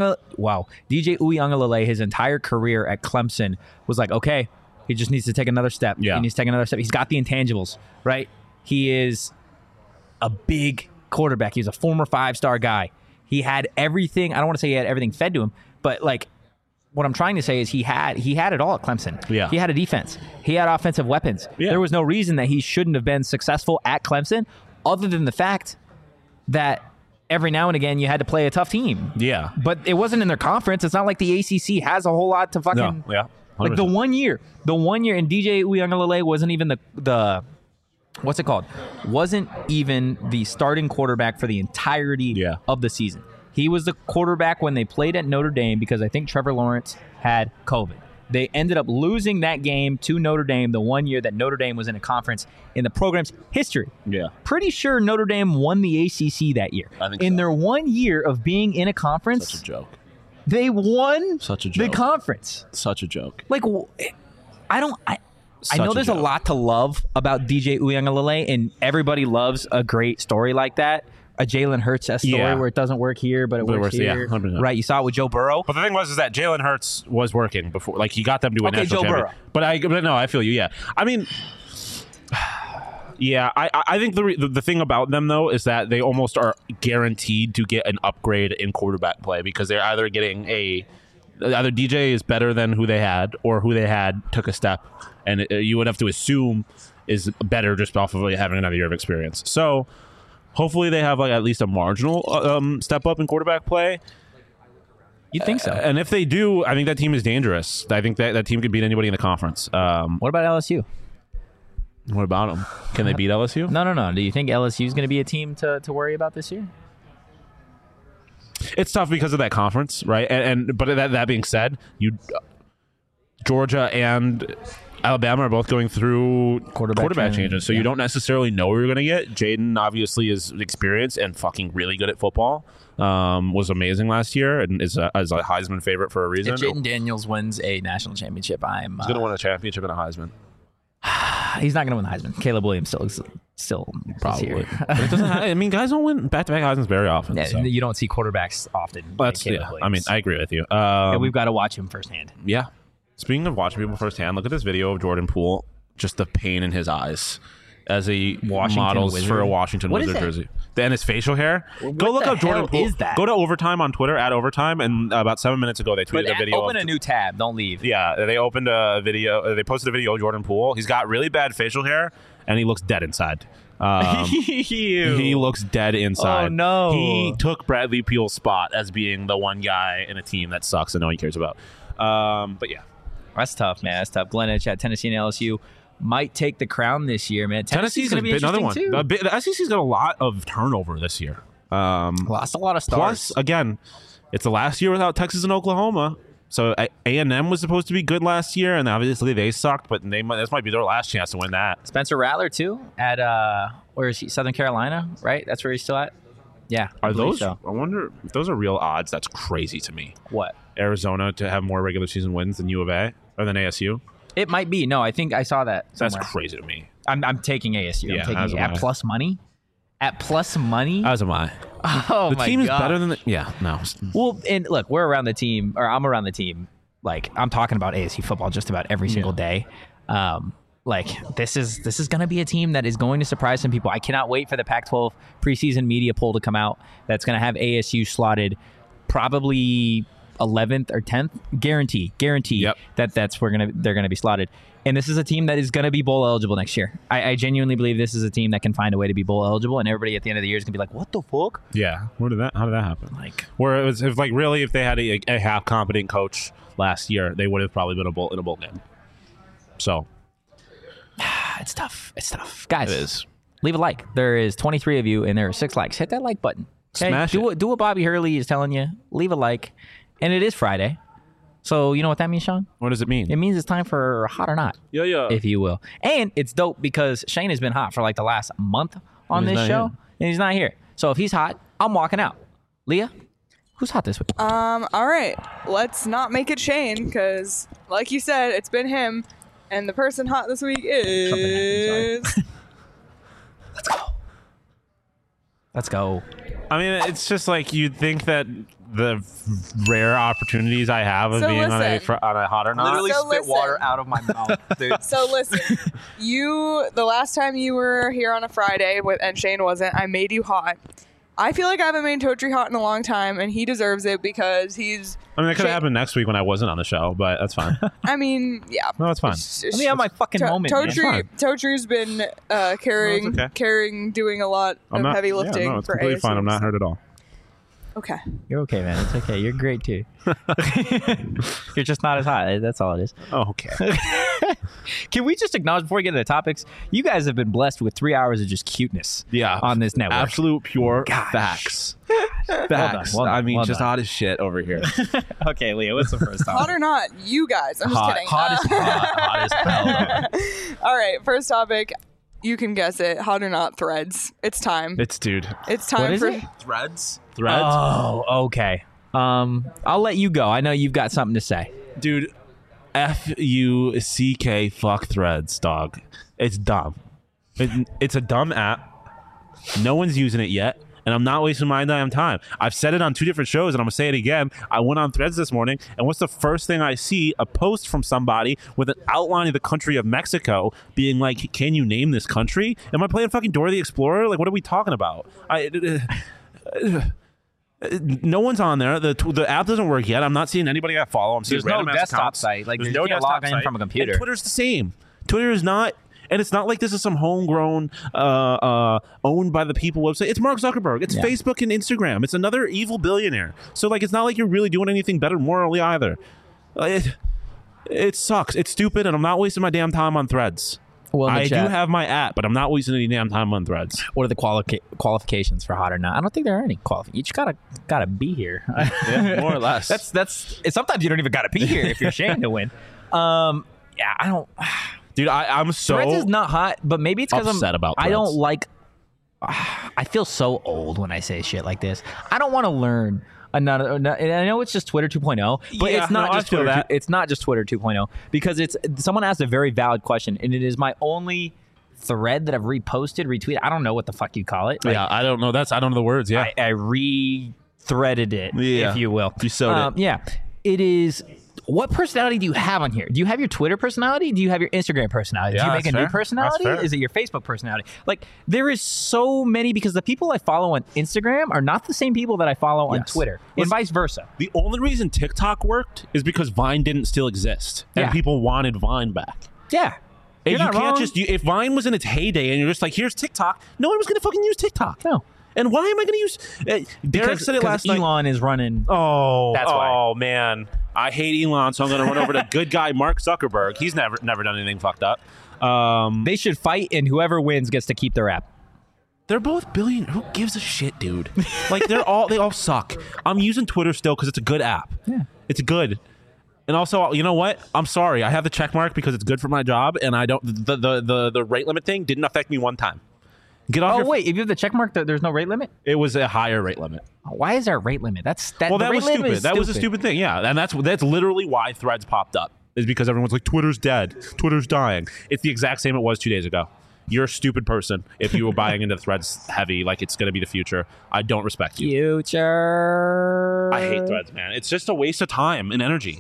Uiagalelei, his entire career at Clemson was like, okay, he just needs to take another step. Yeah. He needs to take another step. He's got the intangibles, right? He is a big quarterback. He's a former 5-star guy. He had everything. I don't want to say he had everything fed to him, but like what I'm trying to say is he had it all at Clemson. Yeah. He had a defense. He had offensive weapons. Yeah. There was no reason that he shouldn't have been successful at Clemson other than the fact that every now and again you had to play a tough team. Yeah. But it wasn't in their conference. It's not like the ACC has a whole lot to fucking... No, yeah. 100%. Like the one year, and DJ Uiagalelei wasn't even the what's it called? Wasn't even the starting quarterback for the entirety of the season. He was the quarterback when they played at Notre Dame because I think Trevor Lawrence had COVID. They ended up losing that game to Notre Dame the one year that Notre Dame was in a conference in the program's history. Yeah. Pretty sure Notre Dame won the ACC that year. I think in so. their 1 year of being in a conference, Such a joke. they won Such a the joke. conference. Such a joke. Like, I know there's a lot to love about DJ Uiagalelei, and everybody loves a great story like that. A Jalen Hurts story where it doesn't work here, but it works here. 100%. Right? You saw it with Joe Burrow. But the thing was that Jalen Hurts was working before. Like, he got them to a Okay, national Joe championship. Burrow. But no, I feel you, yeah. I mean... Yeah, I think the thing about them, though, is that they almost are guaranteed to get an upgrade in quarterback play because they're either getting either DJ is better than who they had, or who they had took a step, and you would have to assume is better just off of having another year of experience. So hopefully they have like at least a marginal step up in quarterback play. You think so? And if they do, I think that team is dangerous. I think that team could beat anybody in the conference. What about LSU? What about them? Can they beat LSU? No. Do you think LSU is going to be a team to worry about this year? It's tough because of that conference, right? But that being said, Georgia and Alabama are both going through quarterback changes, so you don't necessarily know where you're going to get. Jaden obviously is experienced and fucking really good at football. Was amazing last year and is a Heisman favorite for a reason. If Jaden Daniels wins a national championship, He's going to win a championship and a Heisman. He's not going to win the Heisman. Caleb Williams still Probably. here. But it doesn't I mean, guys don't win back-to-back Heismans very often. Yeah, so. you don't see quarterbacks often. I mean, I agree with you. And we've got to watch him firsthand. Yeah. Speaking of watching people firsthand, look at this video of Jordan Poole. Just the pain in his eyes as he models Wizard? for a Washington What is Wizard that? jersey. And his facial hair. Go look the up Jordan hell Poole. is that? Go to Overtime on Twitter at Overtime, and about 7 minutes ago they tweeted a video. Open a new tab. Don't leave. Yeah, they opened a video. They posted a video of Jordan Poole. He's got really bad facial hair, and he looks dead inside. He looks dead inside. Oh, no. He took Bradley Peel's spot as being the one guy in a team that sucks and no one cares about. But yeah. That's tough, man. That's tough. Glenn Edge at Tennessee and LSU might take the crown this year, man. Tennessee's going to be another one. too. The SEC's got a lot of turnover this year. Lost a lot of stars. Plus, again, it's the last year without Texas and Oklahoma. So A&M was supposed to be good last year, and obviously they sucked. But this might be their last chance to win that. Spencer Rattler too at where is he? Southern Carolina, right? That's where he's still at. Yeah. Are those? So. I wonder if those are real odds. That's crazy to me. What? Arizona to have more regular season wins than U of A or than ASU. It might be. No, I think I saw that somewhere. That's crazy to me. I'm taking ASU. Yeah, I'm taking as it am at I. plus money. At plus money. As am I. Oh The my team is God. better than the. Yeah, no. Well, and look, we're around the team, or I'm around the team. Like I'm talking about ASU football just about every single day. Like this is going to be a team that is going to surprise some people. I cannot wait for the Pac-12 preseason media poll to come out. That's going to have ASU slotted probably 11th or 10th. Guarantee Yep. that's where they're going to be slotted. And this is a team that is going to be bowl eligible next year. I genuinely believe this is a team that can find a way to be bowl eligible, and everybody at the end of the year is going to be like, "What the fuck?" Yeah. How did that happen? Like, Where it was if they had a half competent coach last year, they would have probably been in a bowl game. So it's tough. It's tough, guys. it is. Leave a like. There is 23 of you, and there are 6 likes. Hit that like button. Okay? Smash it. Do what Bobby Hurley is telling you. Leave a like. And it is Friday. So you know what that means, Sean? What does it mean? It means it's time for Hot or Not, Yeah. if you will. And it's dope because Shane has been hot for like the last month on And he's this not show, here. and he's not here. So if he's hot, I'm walking out. Leah, who's hot this week? All right, let's not make it Shane because, like you said, it's been him, and the person hot this week is. Let's go. I mean, it's just like you'd think that the rare opportunities I have of So being on a listen. Hot or Not. Literally So spit listen. water out of my mouth, dude. So listen, the last time you were here on a Friday and Shane wasn't, I made you hot. I feel like I haven't made Totri hot in a long time, and he deserves it because he's. I mean, it could Shane- have happened next week when I wasn't on the show, but that's fine. I mean, yeah. No, that's fine. Let me have my fucking moment, man. Totri's been carrying, No, it's okay. doing a lot of heavy lifting Yeah, no, it's for completely fine. I'm ASUs. not hurt at all. Okay. You're okay, man. It's okay. You're great too. You're just not as hot. That's all it is. Oh, okay. Can we just acknowledge before we get into the topics? You guys have been blessed with 3 hours of just cuteness. Yeah, on this network. Absolute pure Gosh. facts. Well Facts. done. I mean, Well just done. hot as shit over here. Okay, Leah. What's the first Hot topic? or not, you guys. I'm just kidding. Hot as hell. All right, first topic. You can guess it. Hot or not, threads. It's time. It's dude. It's time What is for. it? Threads. Oh, okay. I'll let you go. I know you've got something to say. Dude, FUCK fuck Threads, dog. It's dumb. It's a dumb app. No one's using it yet, and I'm not wasting my damn time. I've said it on 2 different shows, and I'm gonna say it again. I went on Threads this morning, and what's the first thing I see? A post from somebody with an outline of the country of Mexico, being like, "Can you name this country?" Am I playing fucking Dora the Explorer? Like, what are we talking about? No one's on there. The app doesn't work yet. I'm not seeing anybody I follow. I'm seeing There's no random ass desktop accounts. site. Like, There's you no can't desktop log in site. from a computer. And Twitter's the same. Twitter is not, and it's not like this is some homegrown, owned by the people website. It's Mark Zuckerberg. It's Yeah. Facebook and Instagram. It's another evil billionaire. So like, it's not like you're really doing anything better morally either. It sucks. It's stupid, and I'm not wasting my damn time on Threads. Well, in the I chat, do have my app, but I'm not wasting any damn time on Threads. what are the qualifications for hot or not? I don't think there are any qualifications. You just gotta be here. Yeah, more or less. That's. Sometimes you don't even gotta be here if you're Shane to win. Yeah, I don't. Dude, I'm so Threads is not hot, but maybe it's because upset about I don't Threads. like. I feel so old when I say shit like this. I don't want to learn another. And I know it's just Twitter 2.0, but Yeah, it's not no, I just feel Twitter. that. It's not just Twitter 2.0 because it's someone asked a very valid question, and it is my only thread that I've reposted, retweeted. I don't know what the fuck you call it. Like, Yeah, I don't know. I don't know the words. Yeah. I re-threaded it, Yeah. if you will. You sewed it. Yeah. It is. What personality do you have on here? Do you have your Twitter personality? Do you have your Instagram personality? Yeah, do you make that's a new fair. personality? That's fair. Is it your Facebook personality? Like, there is so many because the people I follow on Instagram are not the same people that I follow on Yes. Twitter, and Listen, vice versa. The only reason TikTok worked is because Vine didn't still exist, and Yeah. people wanted Vine back. Yeah. And You're you not can't wrong. just if Vine was in its heyday, and you're just like, here's TikTok. No one was gonna fucking use TikTok. No. And why am I gonna use? Derek said it last night. Elon is running. Oh, That's why. Oh man, I hate Elon, so I'm gonna run over to good guy Mark Zuckerberg. He's never done anything fucked up. They should fight, and whoever wins gets to keep their app. They're both billion. Who gives a shit, dude? Like they all suck. I'm using Twitter still because it's a good app. Yeah. It's good. And also, you know what? I'm sorry. I have the check mark because it's good for my job, and I don't. The rate limit thing didn't affect me one time. Get off. Oh your, wait, if you have the check mark, there's no rate limit. It was a higher rate limit. Why is there a rate limit? That. Well, the that rate was limit stupid. is That was a stupid thing. Yeah, and that's literally why Threads popped up. Is because everyone's like, Twitter's dead. Twitter's dying. It's the exact same it was 2 days ago. You're a stupid person if you were buying into Threads heavy, like it's going to be the future. I don't respect you. Future. I hate Threads, man. It's just a waste of time and energy.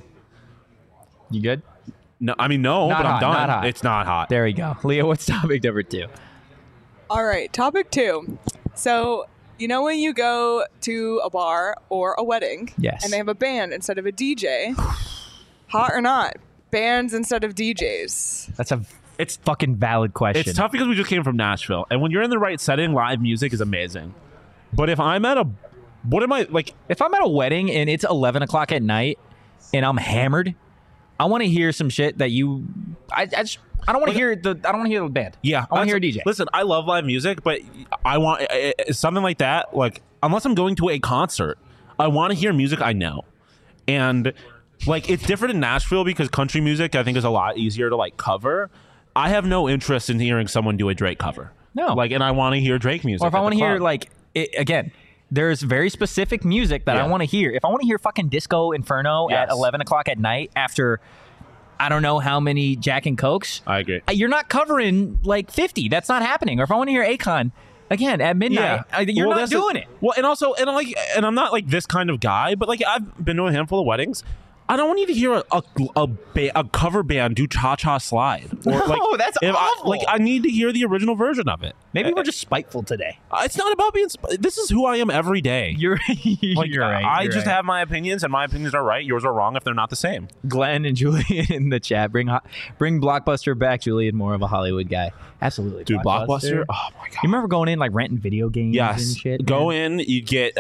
You good? No, I mean no, Not but I'm hot, done. not hot. It's not hot. There we go. Leo, what's topic number 2? All right, topic 2. So, you know when you go to a bar or a wedding, Yes. and they have a band instead of a DJ, hot or not, bands instead of DJs. It's Fucking valid question. It's tough because we just came from Nashville, and when you're in the right setting, live music is amazing. But if I'm at what am I like? If I'm at a wedding and it's 11 o'clock at night and I'm hammered, I want to hear some shit that you. I don't want to hear the. I don't want to hear the band. Yeah, I want to hear a that's- DJ. Listen, I love live music, but I want something like that. Like, unless I'm going to a concert, I want to hear music I know, and like it's different in Nashville because country music I think is a lot easier to like cover. I have no interest in hearing someone do a Drake cover. No. like, and I want to hear Drake music. Or if I at want the to hear club. like again, there's very specific music that I Yeah. want to hear. If I want to hear fucking Disco Inferno at Yes. 11 o'clock at night after I don't know how many Jack and Cokes, I agree. you're not covering like 50. That's not happening. Or if I want to hear Akon Again, at midnight, you're not doing it. Well, and also, and I'm not like this kind of guy, but like I've been to a handful of weddings. I don't need to hear a cover band do Cha Cha Slide. Or, No, that's awful. I need to hear the original version of it. Maybe we're just spiteful today. It's not about being. This is who I am every day. You're Like, you're right. I you're just right. have my opinions, and my opinions are right. Yours are wrong if they're not the same. Glenn and Julian in the chat. Bring Blockbuster back. Julian, more of a Hollywood guy. Absolutely, Dude, Blockbuster. Oh my god. You remember going in like renting video games and Yes. shit? Go man? in. You get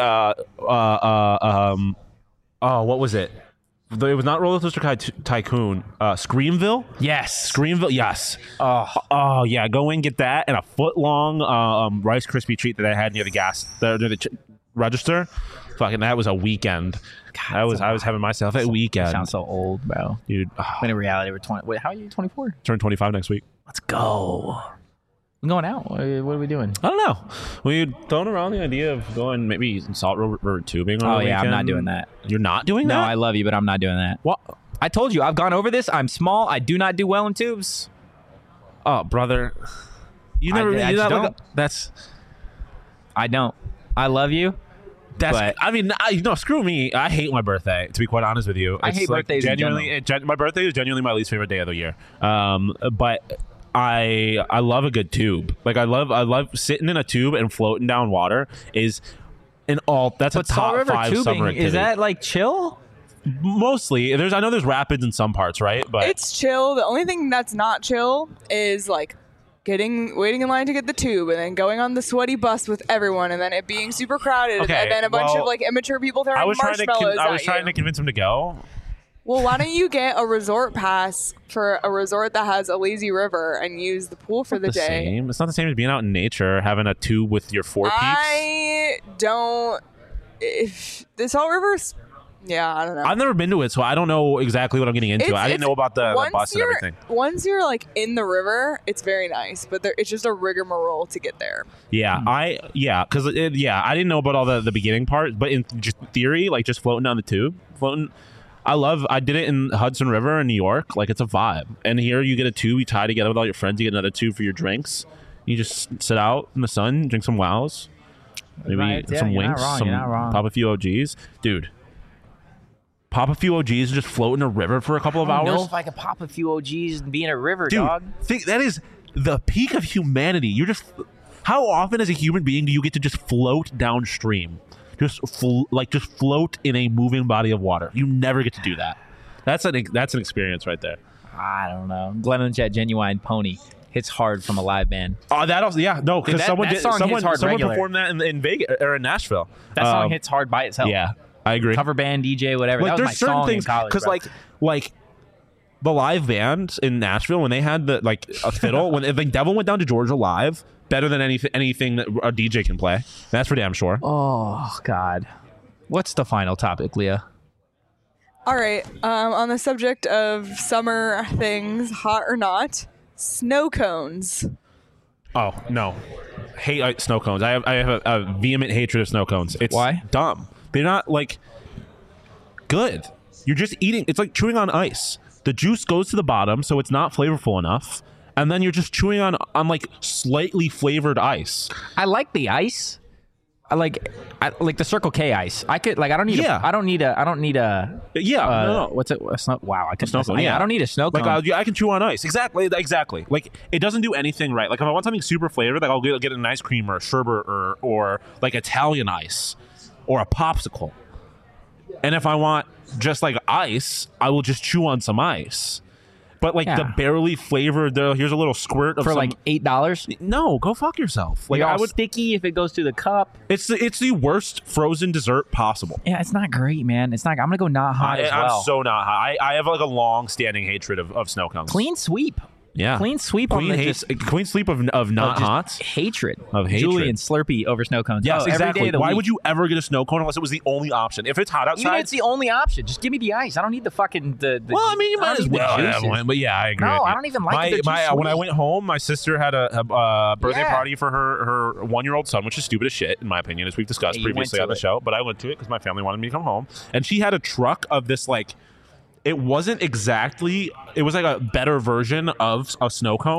what was it? It was not Roller Coaster Tycoon. Screamville. Yes. Screamville. Yes. Oh yeah. Go in, get that, and a foot long Rice Krispie treat that I had near the register. Fucking, that was a weekend. I was having myself a weekend. Sounds so old, bro. Dude. When in reality, we're 20. Wait, how are you? 24? Turn 25 next week. Let's go. I'm going out. What are we doing? I don't know. We throwing around the idea of going maybe Salt River tubing on the yeah, I'm not weekend? doing that. You're not doing No, that? I love you, but I'm not doing that. What? I told you, I've gone over this. I'm small. I do not do well in tubes. Oh, brother. You I never. just you're not don't. like that's. I don't. I love you. That's. But- I mean, screw me. I hate my birthday. To be quite honest with you, I hate birthdays in Genuinely, my birthday is genuinely my least favorite day of the year. But I love a good tube. Like I love sitting in a tube and floating down water. Is in all. That's But a top Salt River 5 summer tubing, activity. is that like chill? Mostly? I know there's rapids in some parts, right? But It's chill. The only thing that's not chill is like waiting in line to get the tube and then going on the sweaty bus with everyone and then it being super crowded Okay, and then a bunch well, of like immature people throwing I was marshmallows trying at to you. convince him to go. Well, why don't you get a resort pass for a resort that has a lazy river and use the pool for the day? Same. It's not the same as being out in nature, having a tube with your 4 peeps. I don't. If the Salt River's, yeah, I don't know. I've never been to it, so I don't know exactly what I'm getting into. I didn't know about the bus and everything. Once you're like in the river, it's very nice, but it's just a rigmarole to get there. Yeah, I didn't know about all the beginning part, but in just theory, like just floating down the tube, I did it in Hudson River in New York. Like it's a vibe. And here you get a tube, you tie together with all your friends, you get another tube for your drinks. You just sit out in the sun, drink some wows, maybe Right, yeah, some you're not winks, wrong, some you're not wrong. pop a few OGs, dude. Pop a few OGs, just float in a river for a couple of I don't hours. know if I could pop a few OGs and be in a river, Dude, dog. think that is the peak of humanity. How often as a human being do you get to just float downstream? Just float in a moving body of water. You never get to do that. That's an experience right there. I don't know. Glenn in the chat, Genuine Pony. Hits hard from a live band. Oh, that also, yeah, no, because Dude, someone that song hits hard someone regular. performed that in Vegas or in Nashville. That song hits hard by itself. Yeah, I agree. Cover band, DJ, whatever. Like that was there's my certain song things in college, because bro. like the live band in Nashville when they had a fiddle when Devil went down to Georgia live, better than anything that a DJ can play. That's for damn sure. Oh, God. What's the final topic, Leah? All right. On the subject of summer things, hot or not, snow cones. Oh no, hate snow cones. I have a vehement hatred of snow cones. It's Why? dumb. They're not like good. You're just eating. It's like chewing on ice. The juice goes to the bottom, so it's not flavorful enough, and then you're just chewing on like slightly flavored ice. I like the ice. I like the Circle K ice. I could I don't need Yeah. I don't need a Yeah, no. what's it? A snow, wow, I could Snow cone, yeah. I don't need a snow cone. Like I can chew on ice. Exactly. Like it doesn't do anything right. Like if I want something super flavored, like I'll get an ice cream or a sherbet or like Italian ice or a popsicle. And if I want just like ice, I will just chew on some ice. But like the Yeah. barely flavored, here's a little squirt of for some, like $8. no, go fuck yourself. Like Like I would. sticky if it goes through the cup. It's the worst frozen dessert possible. Yeah, it's not great, man. It's not. I'm gonna go not hot as well. I'm so not hot. I have like a long standing hatred of snow cones. Clean sweep. Yeah. Clean sweep on the just clean sleep of not just hot. hatred. Of hatred. Julian Slurpee over snow cones. Yes, Oh, every exactly. day of the Why week. would you ever get a snow cone unless it was the only option? If it's hot Even if outside, it's the only option, just give me the ice. I don't need the fucking the. well, I mean, you I don't might as need the well have juices. one. But yeah, I agree. No, with you. I don't even like the juice when I sweet. went home, my sister had a birthday Yeah. party for her 1-year-old son, which is stupid as shit in my opinion, as we've discussed Yeah, you went previously to on the it. show. But I went to it because my family wanted me to come home, and she had a truck of this like. It wasn't exactly. It was like a better version of a snow cone.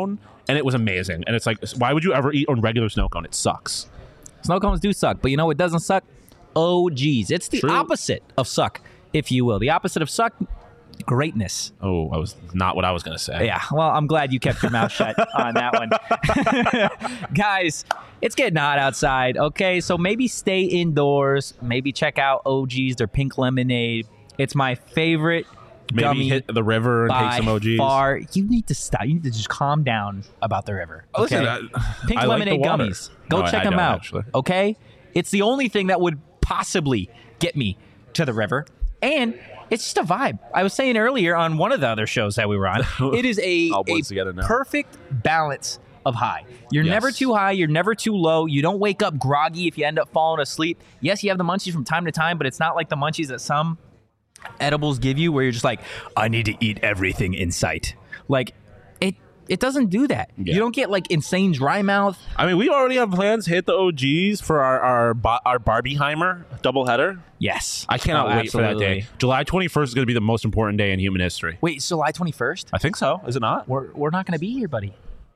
and it was amazing. And it's like, why would you ever eat a regular snow cone? It sucks. Snow cones do suck, but you know what doesn't suck? Oh, geez. It's the opposite of suck, if you will. The opposite of suck, greatness. Oh, I was not what I was going to say. Yeah, well, I'm glad you kept your mouth shut on that one. Guys, it's getting hot outside, okay? So maybe stay indoors. Maybe check out OG's, their pink lemonade. It's my favorite Maybe gummy hit the river and take some OGs. far. You need to stop. You need to just calm down about the river. Okay? Listen, Pink I like lemonade the water. gummies. Go No, check I them don't, out. actually. Okay? It's the only thing that would possibly get me to the river. And it's just a vibe. I was saying earlier on one of the other shows that we were on, it is a All blends together now. perfect balance of high. You're Yes. never too high. You're never too low. You don't wake up groggy if you end up falling asleep. Yes, you have the munchies from time to time, but it's not like the munchies that some edibles give you where you're just like, I need to eat everything in sight. Like, it doesn't do that. Yeah. You don't get like insane dry mouth. I mean, we already have plans to hit the OGs for our Barbieheimer doubleheader. Yes. I cannot Oh, wait for that absolutely. day. July 21st is going to be the most important day in human history. Wait, it's July 21st? I think so. Is it not? We're not going to be here, buddy.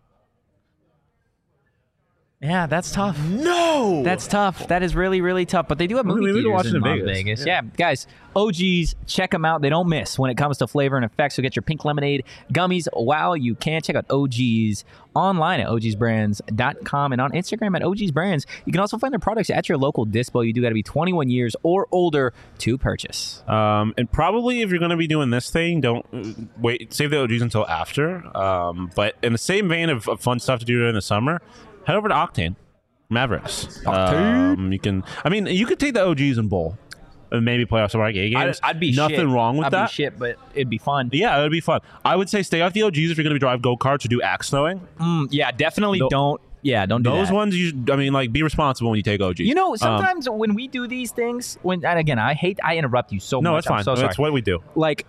Yeah, that's tough. No! That's tough. That is really, really tough. But they do have movie We need to theaters watch it in Las Vegas. Yeah, guys, OGs, check them out. They don't miss when it comes to flavor and effects. So get your pink lemonade gummies while you can. Check out OGs online at ogsbrands.com and on Instagram at OGsBrands. You can also find their products at your local dispo. You do got to be 21 years or older to purchase. And probably if you're going to be doing this thing, don't wait. Save the OGs until after. But in the same vein of fun stuff to do during the summer, head over to Octane Mavericks. You could take the OGs and bowl and maybe play off some arcade games. I'd be nothing shit. wrong with I'd that. be shit, but it'd be fun. Yeah, it would be fun. I would say stay off the OGs if you're going to be drive go-karts or do axe throwing. Yeah, definitely don't. Yeah, don't do Those that. ones, be responsible when you take OGs. You know, sometimes when we do these things, and again, I interrupt you so much. no, it's fine. I'm so sorry. That's what we do. Like,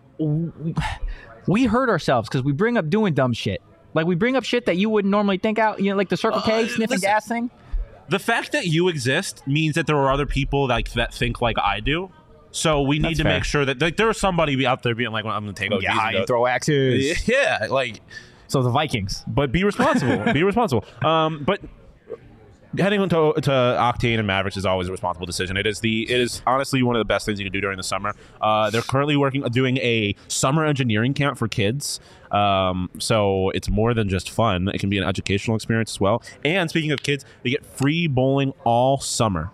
we hurt ourselves because we bring up doing dumb shit. Like, we bring up shit that you wouldn't normally think out. You know, like the Circle K sniffing listen. gas thing. The fact that you exist means that there are other people that think like I do. So we need That's to fair. make sure that there is somebody out there being like, well, I'm going to take OGs. and go- throw axes. Yeah, like, So the Vikings. but be responsible. Be responsible. But heading into Octane and Mavericks is always a responsible decision. It is honestly one of the best things you can do during the summer. They're currently doing a summer engineering camp for kids. So it's more than just fun. It can be an educational experience as well. And speaking of kids, they get free bowling all summer.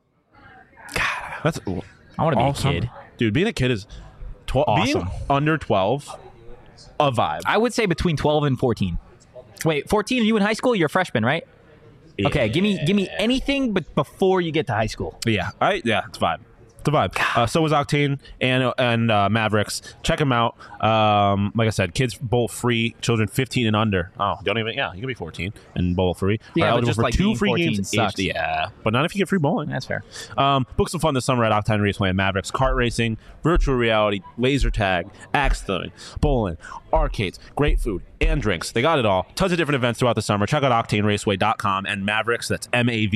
God, that's I want to be all a summer. kid. Dude, being a kid is Awesome. being under 12, a vibe. I would say between 12 and 14. Wait, 14? Are you in high school? You're a freshman, right? Okay, give me anything but before you get to high school. Yeah, it's a vibe. It's a vibe. So is Octane and Mavericks. Check them out. Like I said, kids bowl free. Children 15 and under. Oh, don't even. Yeah, you can be 14 and bowl free. Yeah, Are but eligible just for like 2 being free 14 games. sucks. Yeah, but not if you get free bowling. That's fair. Book some fun this summer at Octane Raceway and Mavericks. Kart racing, virtual reality, laser tag, axe throwing, bowling, arcades, great food, and drinks. They got it all. Tons of different events throughout the summer. Check out OctaneRaceway.com and Mavericks, that's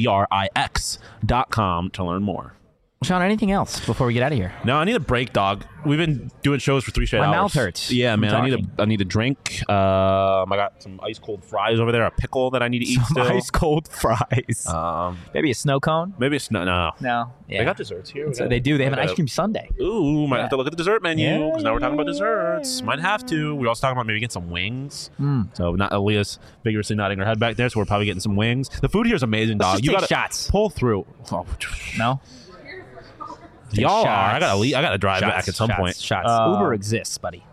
MAVRIX.com to learn more. Sean, anything else before we get out of here? No, I need a break, dog. We've been doing shows for 3 straight My hours. mouth hurts Yeah, from man. talking. I need a drink. I got some ice cold fries over there. A pickle that I need to eat still. Ice cold fries. Maybe a snow cone? Maybe it's no. No. Yeah. They got desserts here. So they do. They have an ice cream sundae. Ooh, might Yeah. have to look at the dessert menu Yeah, because now we're talking about yeah, desserts. Might have to. We're also talking about maybe getting some wings. So not Aaliyah's vigorously nodding her head back there, so we're probably getting some wings. The food here is amazing, dog. just You take got shots. pull through. Oh, No? y'all are. shots. I gotta drive Shots, back at some shots, point. Shots. Uber exists, buddy.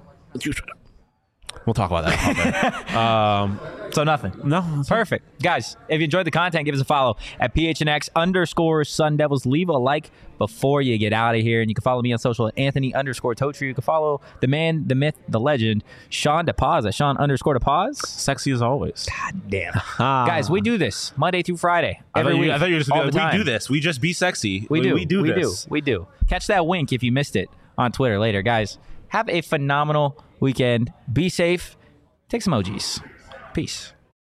We'll talk about that. So nothing. No, Perfect. Guys, if you enjoyed the content, give us a follow at PHNX_Sun Devils. Leave a like before you get out of here. And you can follow me on social at Anthony_Totri. You can follow the man, the myth, the legend, Sean DePaz at Sean_DePaz. sexy as always. God damn. Guys, we do this Monday through Friday. Every week. I thought you were just all gonna the be like, time. we do this. We just be sexy. We do. We do this. We do. Catch that wink if you missed it on Twitter later. Guys, have a phenomenal weekend. Be safe. Take some OGs. Peace.